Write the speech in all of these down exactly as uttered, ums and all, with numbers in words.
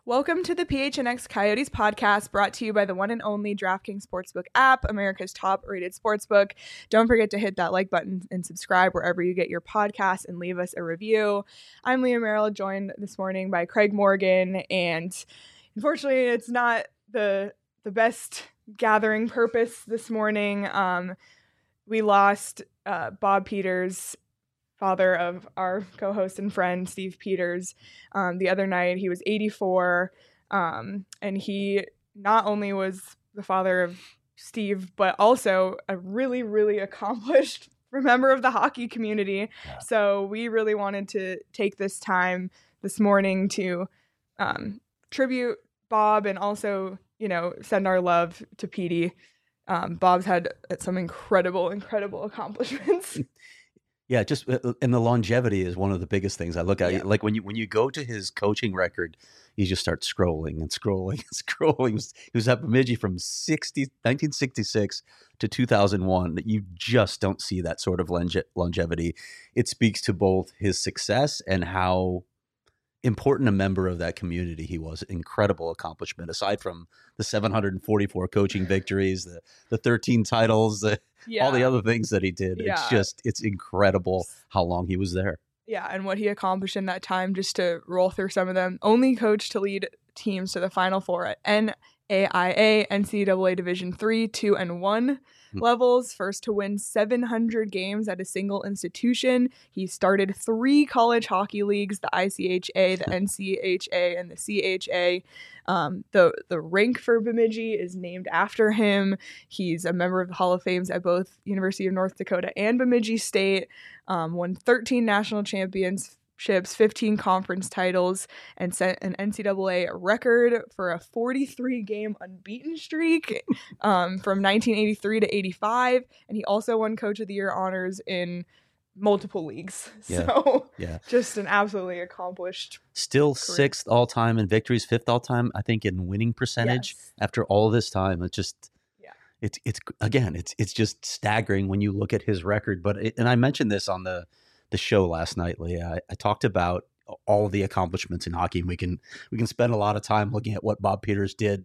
Welcome to the P H N X Coyotes podcast, brought to you by the one and only DraftKings Sportsbook app, America's top-rated sportsbook. Don't forget to hit that like button and subscribe wherever you get your podcasts and leave us a review. I'm Leah Merrill, joined this morning by Craig Morgan, and unfortunately, it's not the the best gathering purpose this morning. Um, we lost uh, Bob Peters, father of our co-host and friend Steve Peters. Um, the other night, he was eighty-four, um, and he not only was the father of Steve, but also a really, really accomplished member of the hockey community. Yeah. So we really wanted to take this time this morning to um, tribute Bob and also, you know, send our love to Petey. Um, Bob's had some incredible, incredible accomplishments. Yeah, just and the longevity is one of the biggest things I look at. Yeah. Like when you when you go to his coaching record, you just start scrolling and scrolling and scrolling. He was, he was at Bemidji from nineteen sixty-six to two thousand one. You just don't see that sort of longe- longevity. It speaks to both his success and how important a member of that community he was. Incredible accomplishment, aside from the seven hundred forty-four coaching victories, the the thirteen titles, the Yeah. all the other things that he did. Yeah. It's just, it's incredible how long he was there. Yeah, and what he accomplished in that time, just to roll through some of them. Only coach to lead teams to the Final Four at N A I A, N C double A Division three, two, and one mm-hmm. levels. First to win seven hundred games at a single institution. He started three college hockey leagues, the I C H A, the N C H A, and the C H A. Um, the, the rink for Bemidji is named after him. He's a member of the Hall of Fame at both University of North Dakota and Bemidji State. Um, won thirteen national championships, fifteen conference titles, and set an N C double A record for a forty-three game unbeaten streak um, from nineteen eighty-three to eighty-five. And he also won Coach of the Year honors in multiple leagues. Yeah. So yeah. just an absolutely accomplished Still career. Sixth all-time in victories, fifth all-time, I think, in winning percentage. Yes. After all this time. It's just, yeah. it's, it's again, it's it's just staggering when you look at his record. But it, and I mentioned this on the, the show last night, Leah. I, I talked about all of the accomplishments in hockey. And we can we can spend a lot of time looking at what Bob Peters did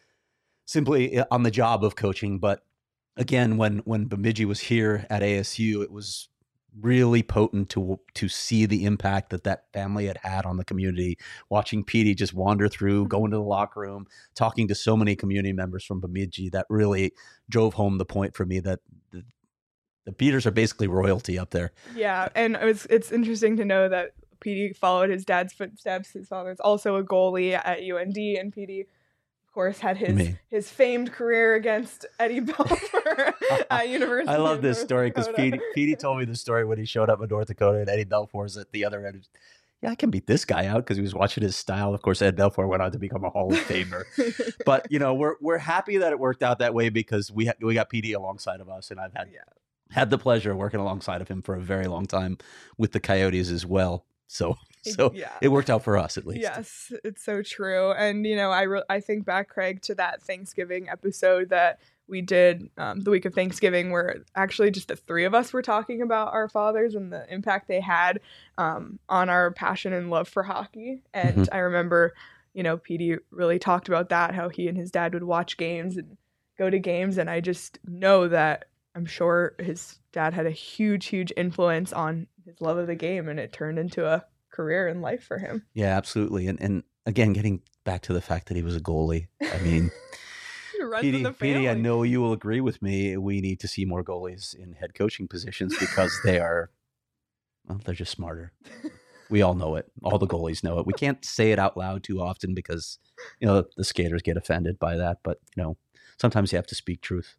simply on the job of coaching. But again, when when Bemidji was here at A S U, it was really potent to to see the impact that that family had had on the community. Watching Petey just wander through, go into the locker room, talking to so many community members from Bemidji, that really drove home the point for me that the, the Peters are basically royalty up there. Yeah, and it was, it's interesting to know that Petey followed his dad's footsteps. His father is also a goalie at U N D, and Petey, of course, had his Me. his famed career against Eddie Belfour at University. I love this North story because Petey, Petey told me the story when he showed up in North Dakota and Eddie Belfour's at the other end. Yeah, I can beat this guy out because he was watching his style. Of course, Ed Belfour went on to become a Hall of Famer. But you know, we're we're happy that it worked out that way because we ha- we got Petey alongside of us, and I've had yeah. had the pleasure of working alongside of him for a very long time with the Coyotes as well. So. So yeah. It worked out for us, at least. Yes, it's so true. And, you know, I re- I think back, Craig, to that Thanksgiving episode that we did um, the week of Thanksgiving, where actually just the three of us were talking about our fathers and the impact they had um, on our passion and love for hockey. And mm-hmm. I remember, you know, Petey really talked about that, how he and his dad would watch games and go to games. And I just know that I'm sure his dad had a huge, huge influence on his love of the game, and it turned into a career in life for him. Yeah, absolutely. And and again, getting back to the fact that he was a goalie. I mean, Petey, Petey, I know you will agree with me. We need to see more goalies in head coaching positions because they are, well, they're just smarter. We all know it. All the goalies know it. We can't say it out loud too often because, you know, the skaters get offended by that. But, you know, sometimes you have to speak truth.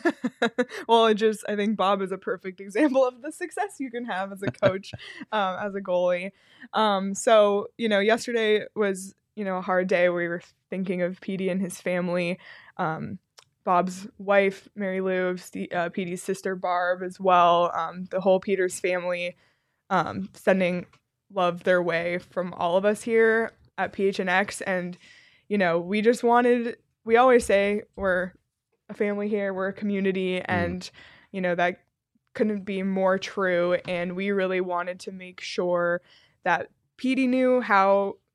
Well, it just, I think Bob is a perfect example of the success you can have as a coach, um, as a goalie. Um, so, you know, yesterday was, you know, a hard day. We were thinking of Petey and his family. Um, Bob's wife, Mary Lou, Steve, uh, Petey's sister, Barb, as well. Um, the whole Peters family um, sending love their way from all of us here at P H N X. And, you know, we just wanted, we always say we're a family here, we're a community, and, mm. you know, that couldn't be more true. And we really wanted to make sure that Petey knew how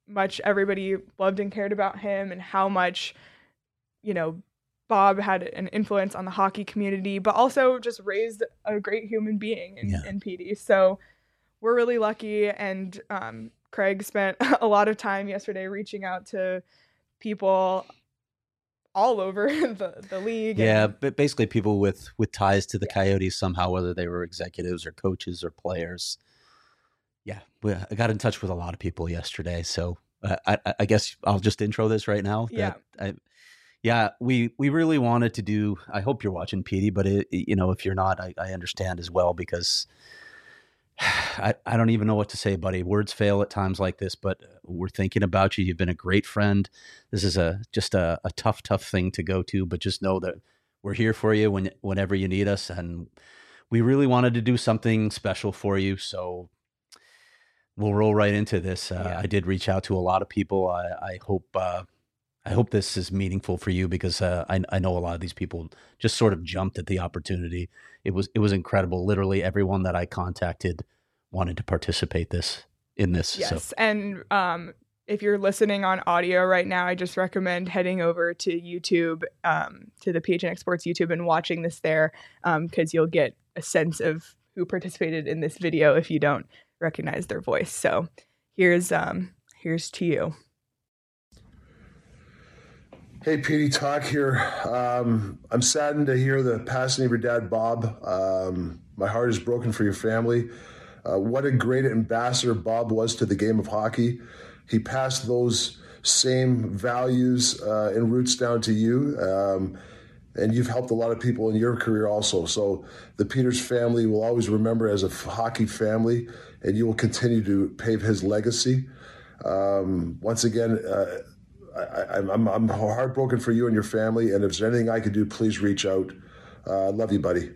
much everybody loved and cared about him, and how much, you know, Bob had an influence on the hockey community, but also just raised a great human being in, yeah. in Petey. So we're really lucky. And um, Craig spent a lot of time yesterday reaching out to people all over the, the league. Yeah, and, but basically people with, with ties to the yeah. Coyotes somehow, whether they were executives or coaches or players. Yeah, I got in touch with a lot of people yesterday. So uh, I, I guess I'll just intro this right now. Yeah. I, Yeah, we, we really wanted to do, I hope you're watching, Petey, but it, you know, if you're not, I, I understand as well, because I, I don't even know what to say, buddy. Words fail at times like this, but we're thinking about you. You've been a great friend. This is a just a, a tough, tough thing to go to, but just know that we're here for you when whenever you need us. And we really wanted to do something special for you. So we'll roll right into this. Uh, Yeah. I did reach out to a lot of people. I, I hope, uh, I hope this is meaningful for you, because uh, I, I know a lot of these people just sort of jumped at the opportunity. It was it was incredible. Literally everyone that I contacted wanted to participate this in this. Yes, so. and um, if you're listening on audio right now, I just recommend heading over to YouTube, um, to the P H N X Sports YouTube, and watching this there, because um, you'll get a sense of who participated in this video if you don't recognize their voice. So here's um, here's to you. Hey, Petey, Talk here. Um, I'm saddened to hear the passing of your dad, Bob. Um, my heart is broken for your family. Uh, what a great ambassador Bob was to the game of hockey. He passed those same values uh, and roots down to you, um, and you've helped a lot of people in your career also. So the Peters family will always remember as a hockey family, and you will continue to pave his legacy. Um, once again, uh, I, I'm, I'm heartbroken for you and your family, and if there's anything I could do, please reach out. Uh, love you, buddy.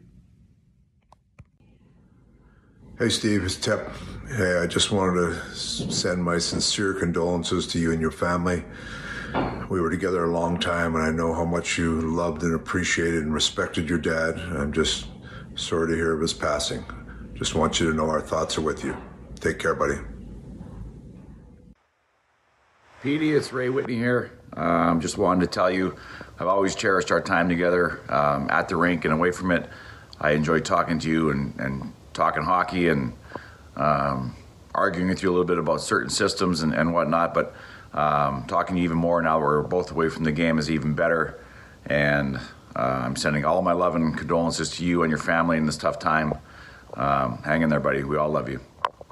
Hey, Steve, it's Tep. Hey, I just wanted to send my sincere condolences to you and your family. We were together a long time, and I know how much you loved and appreciated and respected your dad. I'm just sorry to hear of his passing. Just want you to know our thoughts are with you. Take care, buddy. Petey, it's Ray Whitney here. Um, just wanted to tell you, I've always cherished our time together um, at the rink and away from it. I enjoyed talking to you and, and talking hockey and um, arguing with you a little bit about certain systems and, and whatnot, but um, talking to you even more now we're both away from the game is even better. And uh, I'm sending all my love and condolences to you and your family in this tough time. Um, hang in there, buddy. We all love you.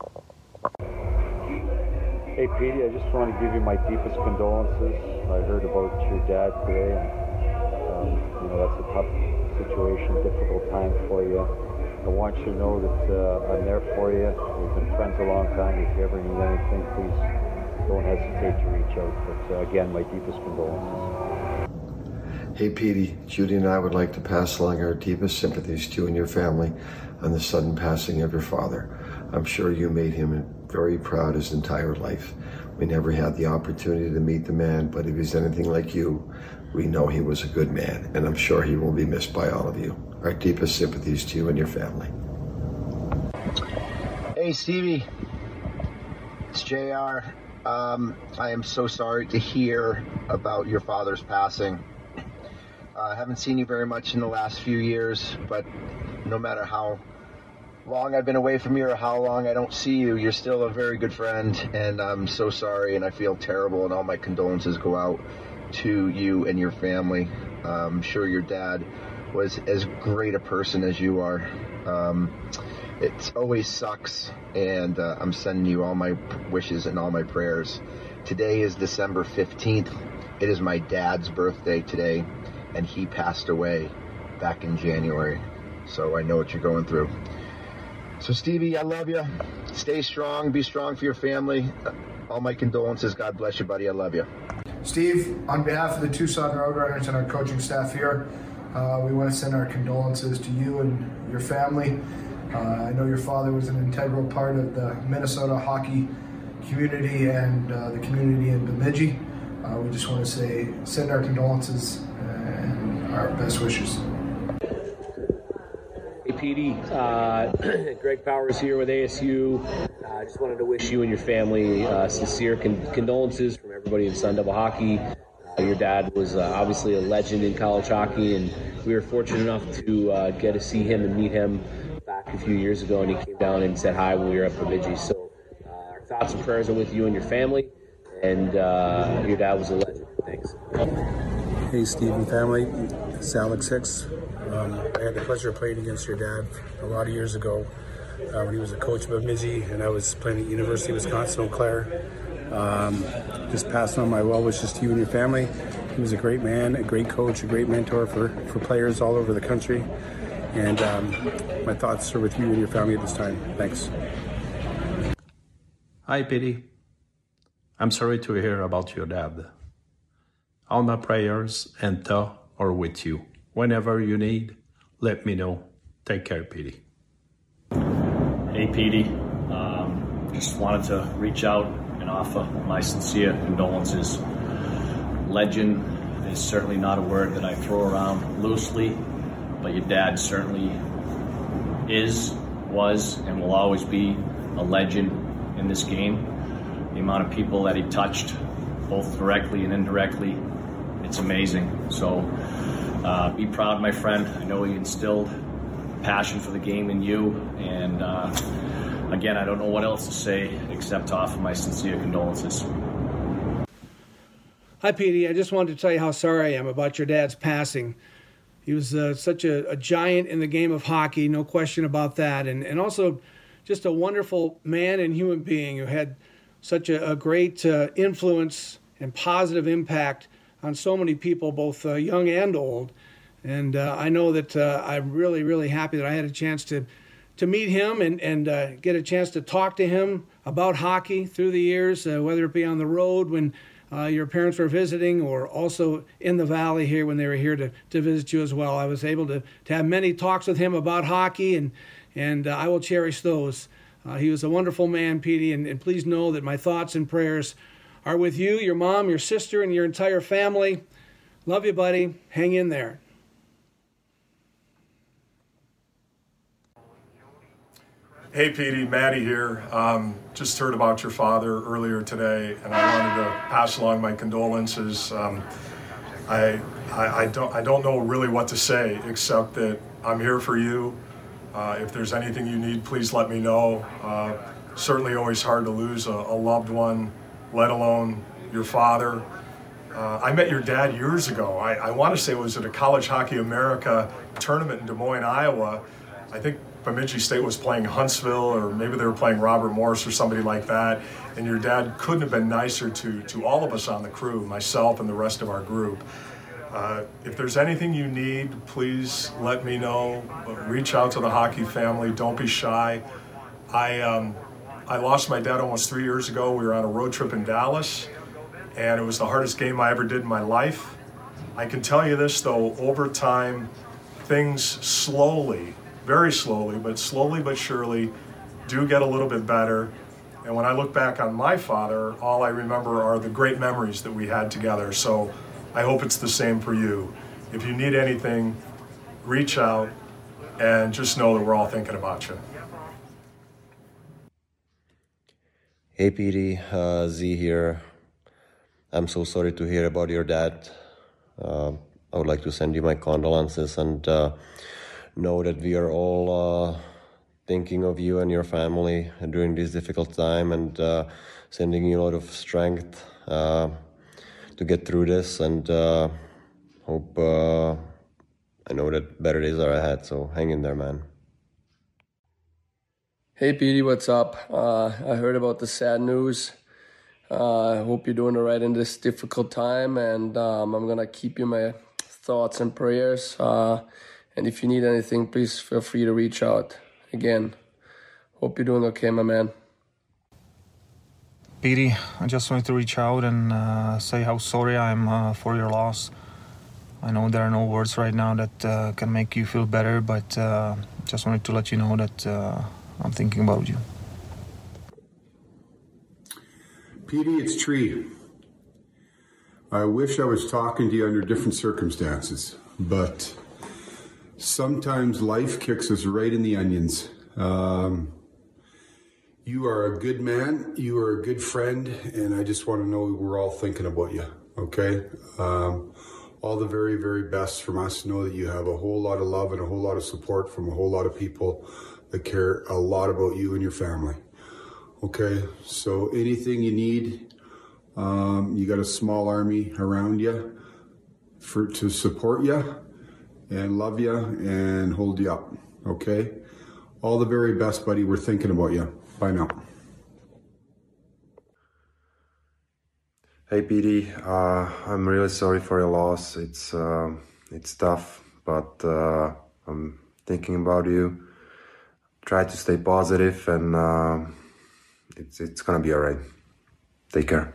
Hey, Petey, I just want to give you my deepest condolences. I heard about your dad today, and um, you know, that's a tough situation, difficult time for you. I want you to know that uh, I'm there for you. We've been friends a long time. If you ever need anything, please don't hesitate to reach out. But uh, again, my deepest condolences. Hey, Petey, Judy and I would like to pass along our deepest sympathies to you and your family on the sudden passing of your father. I'm sure you made him very proud his entire life. We never had the opportunity to meet the man, but if he's anything like you, we know he was a good man, and I'm sure he will be missed by all of you. Our deepest sympathies to you and your family. Hey, Stevie, it's J R. Um, I am so sorry to hear about your father's passing. I uh, haven't seen you very much in the last few years, but no matter how long I've been away from you or how long I don't see you, you're still a very good friend, and I'm so sorry, and I feel terrible, and all my condolences go out to you and your family. I'm sure your dad was as great a person as you are. Um, it always sucks, and uh, I'm sending you all my wishes and all my prayers. Today is December fifteenth. It is my dad's birthday today, and he passed away back in January, so I know what you're going through. So, Stevie, I love you. Stay strong. Be strong for your family. All my condolences. God bless you, buddy. I love you. Steve, on behalf of the Tucson Roadrunners and our coaching staff here, uh, we want to send our condolences to you and your family. Uh, I know your father was an integral part of the Minnesota hockey community and uh, the community in Bemidji. Uh, we just want to say, send our condolences and our best wishes. Hey, Petey. Uh, Greg Powers here with A S U. I uh, just wanted to wish you and your family uh, sincere con- condolences from everybody in Sun Devil Hockey. Uh, your dad was uh, obviously a legend in college hockey, and we were fortunate enough to uh, get to see him and meet him back a few years ago, and he came down and said hi when we were at Bemidji. So uh, our thoughts and prayers are with you and your family, and uh, your dad was a legend. Thanks. Hey, Steve and family. It's Alex Hicks. Um, I had the pleasure of playing against your dad a lot of years ago uh, when he was a coach of Bemidji, and I was playing at University of Wisconsin Eau Claire. Um, just passing on my well wishes to you and your family. He was a great man, a great coach, a great mentor for, for players all over the country. And um, my thoughts are with you and your family at this time. Thanks. Hi, Petey. I'm sorry to hear about your dad. All my prayers and thoughts are with you. Whenever you need, let me know. Take care, Petey. Hey, Petey. Um, just wanted to reach out and offer my sincere condolences. Legend is certainly not a word that I throw around loosely, but your dad certainly is, was, and will always be a legend in this game. The amount of people that he touched, both directly and indirectly, it's amazing. So uh, be proud, my friend. I know he instilled passion for the game in you, and uh, again, I don't know what else to say except to offer my sincere condolences. Hi, Petey. I just wanted to tell you how sorry I am about your dad's passing. He was uh, such a, a giant in the game of hockey, no question about that, and, and also just a wonderful man and human being who had such a, a great uh, influence and positive impact on so many people, both uh, young and old. And uh, I know that uh, I'm really, really happy that I had a chance to to meet him and, and uh, get a chance to talk to him about hockey through the years, uh, whether it be on the road when uh, your parents were visiting or also in the Valley here when they were here to, to visit you as well. I was able to, to have many talks with him about hockey, and, and uh, I will cherish those. Uh, he was a wonderful man, Petey, and, and please know that my thoughts and prayers are with you, your mom, your sister, and your entire family. Love you, buddy. Hang in there. Hey, Petey, Maddie here. Um, just heard about your father earlier today, and I wanted to pass along my condolences. Um, I, I, I don't I don't know really what to say except that I'm here for you. Uh, if there's anything you need, please let me know. Uh, certainly always hard to lose a, a loved one, let alone your father. Uh, I met your dad years ago. I, I want to say it was at a College Hockey America tournament in Des Moines, Iowa. I think Bemidji State was playing Huntsville, or maybe they were playing Robert Morris or somebody like that. And your dad couldn't have been nicer to, to all of us on the crew, myself and the rest of our group. Uh, if there's anything you need, please let me know. Reach out to the hockey family. Don't be shy. I, um, I lost my dad almost three years ago. We were on a road trip in Dallas, and it was the hardest game I ever did in my life. I can tell you this, though, over time, things slowly, very slowly, but slowly but surely do get a little bit better. And when I look back on my father, all I remember are the great memories that we had together. So I hope it's the same for you. If you need anything, reach out and just know that we're all thinking about you. Hey, Petey, uh, Z here. I'm so sorry to hear about your dad. Uh, I would like to send you my condolences and uh, know that we are all uh, thinking of you and your family during this difficult time, and uh, sending you a lot of strength uh, to get through this, and uh, hope uh, I know that better days are ahead, so hang in there, man. Hey, Petey, what's up? Uh, I heard about the sad news. Uh, I hope you're doing all right in this difficult time, and um, I'm going to keep you in my thoughts and prayers. Uh, and if you need anything, please feel free to reach out. Again, hope you're doing okay, my man. Petey, I just wanted to reach out and uh, say how sorry I am uh, for your loss. I know there are no words right now that uh, can make you feel better, but uh, just wanted to let you know that uh, I'm thinking about you. Petey, it's Tree. I wish I was talking to you under different circumstances, but sometimes life kicks us right in the onions. Um, you are a good man, you are a good friend, and I just want to know we're all thinking about you, okay? Um, all the very, very best from us. Know that you have a whole lot of love and a whole lot of support from a whole lot of people that care a lot about you and your family. Okay, so anything you need, um, you got a small army around you for to support you and love you and hold you up. Okay, all the very best, buddy. We're thinking about you. Bye now. Hey, Petey. Uh, I'm really sorry for your loss. It's uh, it's tough, but uh, I'm thinking about you. Try to stay positive, and uh, it's it's gonna be all right. Take care.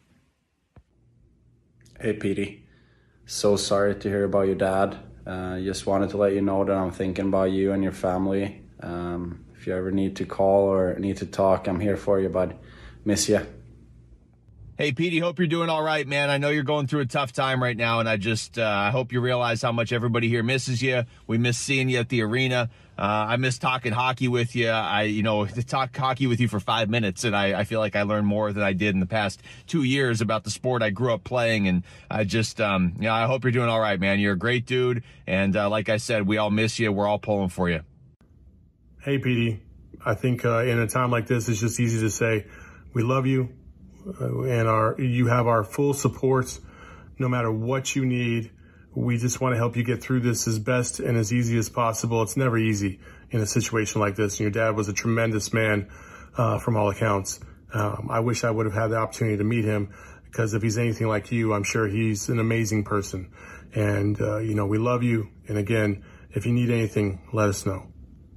Hey, Petey. So sorry to hear about your dad. Uh, just wanted to let you know that I'm thinking about you and your family. Um, if you ever need to call or need to talk, I'm here for you, bud. Miss you. Hey, Petey, hope you're doing all right, man. I know you're going through a tough time right now, and I just uh, I hope you realize how much everybody here misses you. We miss seeing you at the arena. Uh, I miss talking hockey with you. I, you know, to talk hockey with you for five minutes, and I, I feel like I learned more than I did in the past two years about the sport I grew up playing. And I just, um, you know, I hope you're doing all right, man. You're a great dude, and uh, like I said, we all miss you. We're all pulling for you. Hey, Petey. I think uh, in a time like this, it's just easy to say we love you. Uh, and our you have our full support no matter what you need. We just want to help you get through this as best and as easy as possible. It's never easy in a situation like this. And your dad was a tremendous man uh, from all accounts. Um, I wish I would have had the opportunity to meet him, because if he's anything like you, I'm sure he's an amazing person. And, uh, you know, we love you. And again, if you need anything, let us know.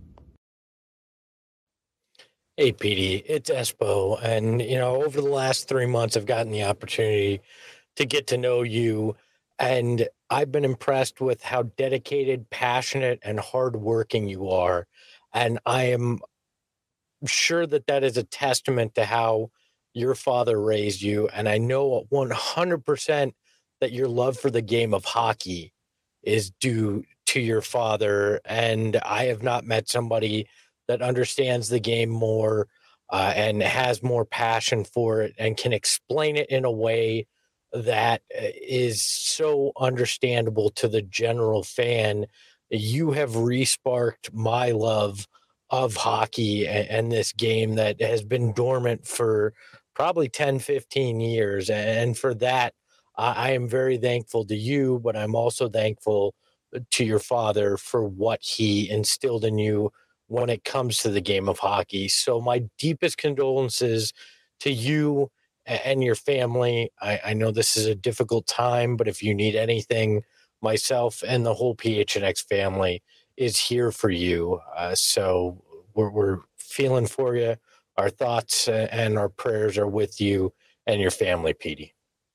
Hey, Petey, it's Espo. And, you know, over the last three months, I've gotten the opportunity to get to know you. And I've been impressed with how dedicated, passionate, and hardworking you are. And I am sure that that is a testament to how your father raised you. And I know one hundred percent that your love for the game of hockey is due to your father. And I have not met somebody that understands the game more uh, and has more passion for it and can explain it in a way that is so understandable to the general fan. You have re-sparked my love of hockey and, and this game that has been dormant for probably ten, fifteen years. And for that, I, I am very thankful to you, but I'm also thankful to your father for what he instilled in you when it comes to the game of hockey. So my deepest condolences to you and your family. I, I know this is a difficult time, but if you need anything, myself and the whole P H N X family is here for you. Uh, so we're, we're feeling for you. Our thoughts and our prayers are with you and your family, Petey.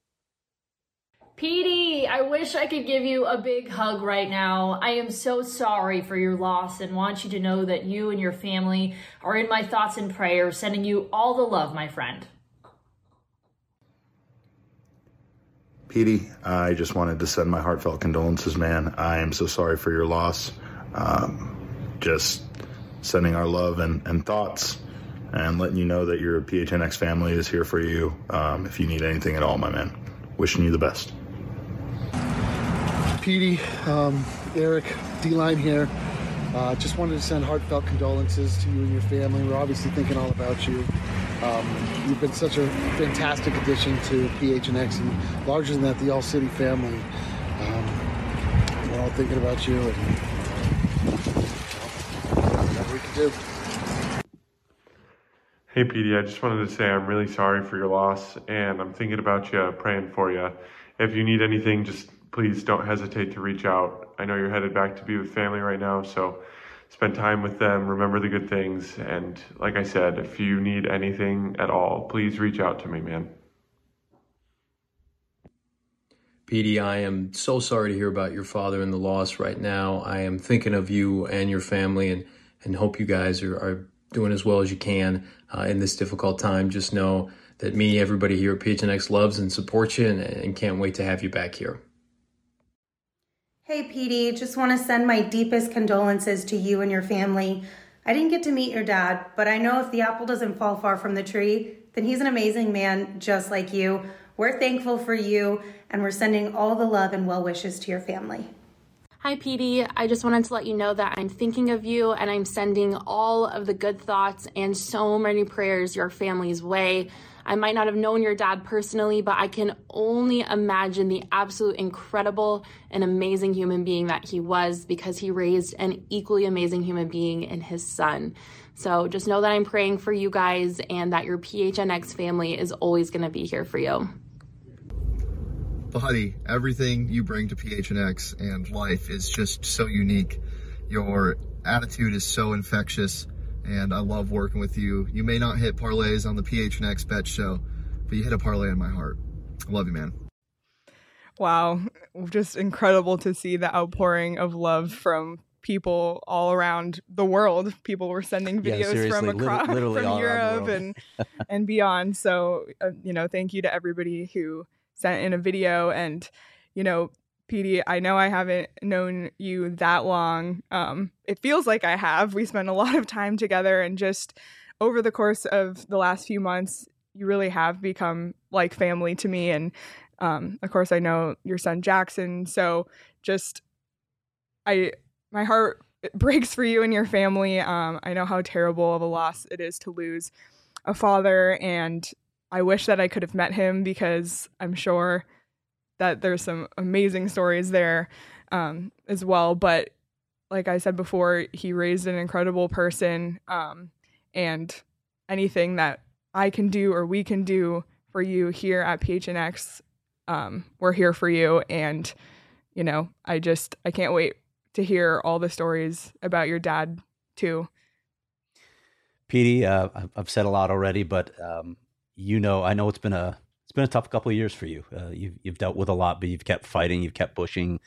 Petey, I wish I could give you a big hug right now. I am so sorry for your loss and want you to know that you and your family are in my thoughts and prayers, sending you all the love, my friend. Petey, I just wanted to send my heartfelt condolences, man. I am so sorry for your loss. Um, just sending our love and, and thoughts and letting you know that your P H N X family is here for you um, if you need anything at all, my man. Wishing you the best. Petey, um, Eric, D-Line here. Uh, just wanted to send heartfelt condolences to you and your family. We're obviously thinking all about you. Um, you've been such a fantastic addition to P H N X, and larger than that, the All City family. Um, we're all thinking about you, and whatever we can do. Hey, Petey, I just wanted to say I'm really sorry for your loss, and I'm thinking about you, praying for you. If you need anything, just please don't hesitate to reach out. I know you're headed back to be with family right now, so spend time with them, remember the good things, and like I said, if you need anything at all, please reach out to me, man. Petey, I am so sorry to hear about your father and the loss right now. I am thinking of you and your family, and, and hope you guys are, are doing as well as you can uh, in this difficult time. Just know that me, everybody here at P H N X loves and supports you, and, and can't wait to have you back here. Hey, Petey, just want to send my deepest condolences to you and your family. I didn't get to meet your dad, but I know if the apple doesn't fall far from the tree, then he's an amazing man just like you. We're thankful for you, and we're sending all the love and well wishes to your family. Hi, Petey. I just wanted to let you know that I'm thinking of you and I'm sending all of the good thoughts and so many prayers your family's way. I might not have known your dad personally, but I can only imagine the absolute incredible and amazing human being that he was, because he raised an equally amazing human being in his son. So just know that I'm praying for you guys and that your P H N X family is always going to be here for you. Buddy, everything you bring to P H N X and life is just so unique. Your attitude is so infectious, and I love working with you. You may not hit parlays on the P H N X bet show, but you hit a parlay in my heart. I love you, man. Wow, just incredible to see the outpouring of love from people all around the world. People were sending videos yeah, from across literally from Europe and and beyond. So, uh, you know, thank you to everybody who sent in a video. And, you know, Petey, I know I haven't known you that long. Um, it feels like I have. We spent a lot of time together, and just over the course of the last few months, you really have become like family to me. And um, of course, I know your son Jackson. So just, I, my heart breaks for you and your family. Um, I know how terrible of a loss it is to lose a father, and I wish that I could have met him, because I'm sure that there's some amazing stories there um, as well. But like I said before, he raised an incredible person, um, and anything that I can do or we can do for you here at P H N X, um, we're here for you. And, you know, I just, I can't wait to hear all the stories about your dad too. Petey, uh, I've said a lot already, but um, you know, I know it's been a it's been a tough couple of years for you. Uh, you've you've dealt with a lot, but you've kept fighting, you've kept pushing.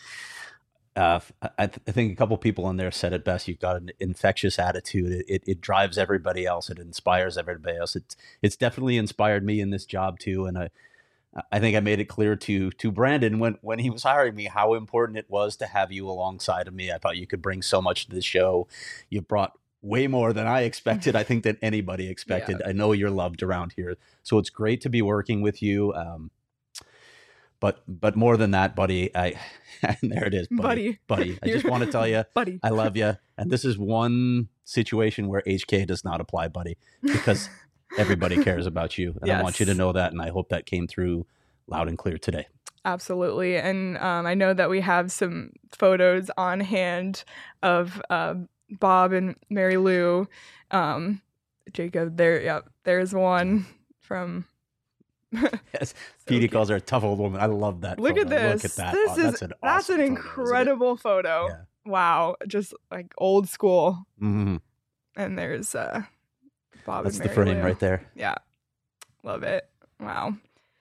Uh, I, th- I think a couple people in there said it best. You've got an infectious attitude. It, it it drives everybody else. It inspires everybody else. It's it's definitely inspired me in this job too. And I I think I made it clear to to Brandon when when he was hiring me how important it was to have you alongside of me. I thought you could bring so much to the show. You brought way more than I expected. I think than anybody expected. Yeah. I know you're loved around here, so it's great to be working with you. Um, but but more than that, buddy, I and there it is, buddy. Buddy, buddy. I just want to tell you, buddy, I love you. And this is one situation where H K does not apply, buddy, because everybody cares about you, and yes. I want you to know that. And I hope that came through loud and clear today. Absolutely. And um, I know that we have some photos on hand of uh, Bob and Mary Lou. Um, Jacob, there, yeah, there's one from. Yes, so Petey calls her a tough old woman. I love that. Look photo. at this. Look at that. This oh, is that's an, that's awesome an incredible photo. photo. Yeah. Wow, just like old school. Mm-hmm. And there's uh, Bob. That's and Mary the frame Lou. right there. Yeah, love it. Wow,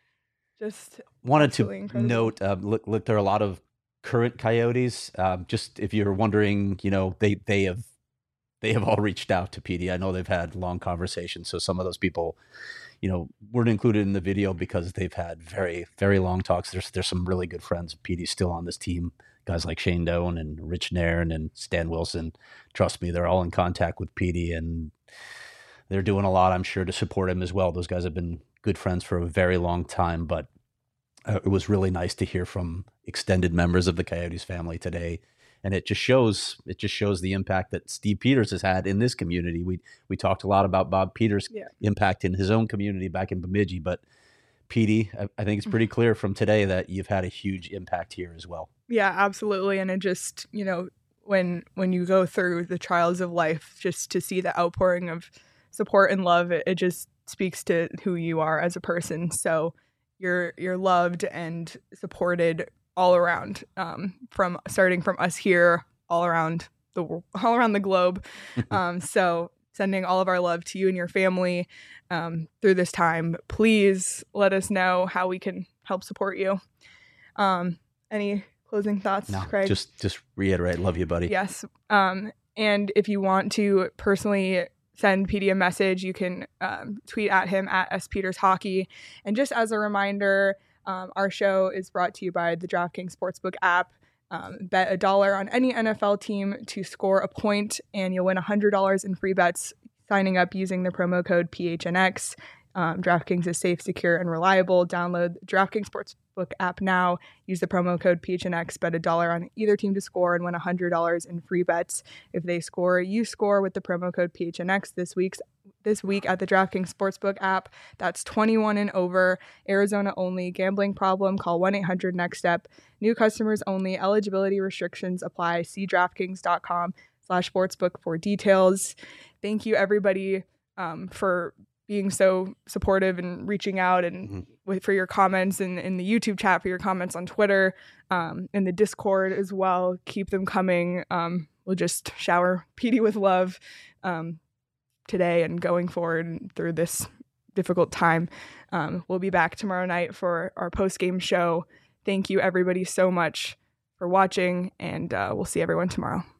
just wanted to incredible. note. Uh, look, look, there are a lot of current Coyotes. Um, just if you're wondering, you know, they they have they have all reached out to Petey. I know they've had long conversations. So some of those people, you know, weren't included in the video because they've had very, very long talks. There's there's some really good friends. Petey's still on this team. Guys like Shane Doan and Rich Nairn and Stan Wilson. Trust me, they're all in contact with Petey, and they're doing a lot, I'm sure, to support him as well. Those guys have been good friends for a very long time, but uh, it was really nice to hear from extended members of the Coyotes family today. And it just shows it just shows the impact that Steve Peters has had in this community. We we talked a lot about Bob Peters' yeah. impact in his own community back in Bemidji, but Petey, I, I think it's pretty clear from today that you've had a huge impact here as well. Yeah, absolutely. And it just, you know, when when you go through the trials of life, just to see the outpouring of support and love, it, it just speaks to who you are as a person. So you're you're loved and supported all around, um, from starting from us here all around the all around the globe. um, so sending all of our love to you and your family um, through this time. Please let us know how we can help support you. Um, any closing thoughts, no, Craig? Just just reiterate, love you, buddy. Yes. Um, and if you want to personally send Petey a message, you can um, tweet at him at S Peters Hockey. And just as a reminder, Um, our show is brought to you by the DraftKings Sportsbook app. Um, bet a dollar on any N F L team to score a point, and you'll win one hundred dollars in free bets signing up using the promo code P H N X. Um, DraftKings is safe, secure, and reliable. Download the DraftKings Sportsbook app now. Use the promo code P H N X. Bet a dollar on either team to score and win one hundred dollars in free bets. If they score, you score with the promo code P H N X this week's this week at the DraftKings Sportsbook app. That's twenty-one and over. Arizona only. Gambling problem? Call one eight hundred next step. New customers only. Eligibility restrictions apply. See DraftKings.com slash sportsbook for details. Thank you, everybody, um, for being so supportive and reaching out and mm-hmm. with, for your comments in, in the YouTube chat, for your comments on Twitter, um, in the Discord as well. Keep them coming. Um, we'll just shower Petey with love um, today and going forward through this difficult time. Um, we'll be back tomorrow night for our post-game show. Thank you, everybody, so much for watching, and uh, we'll see everyone tomorrow.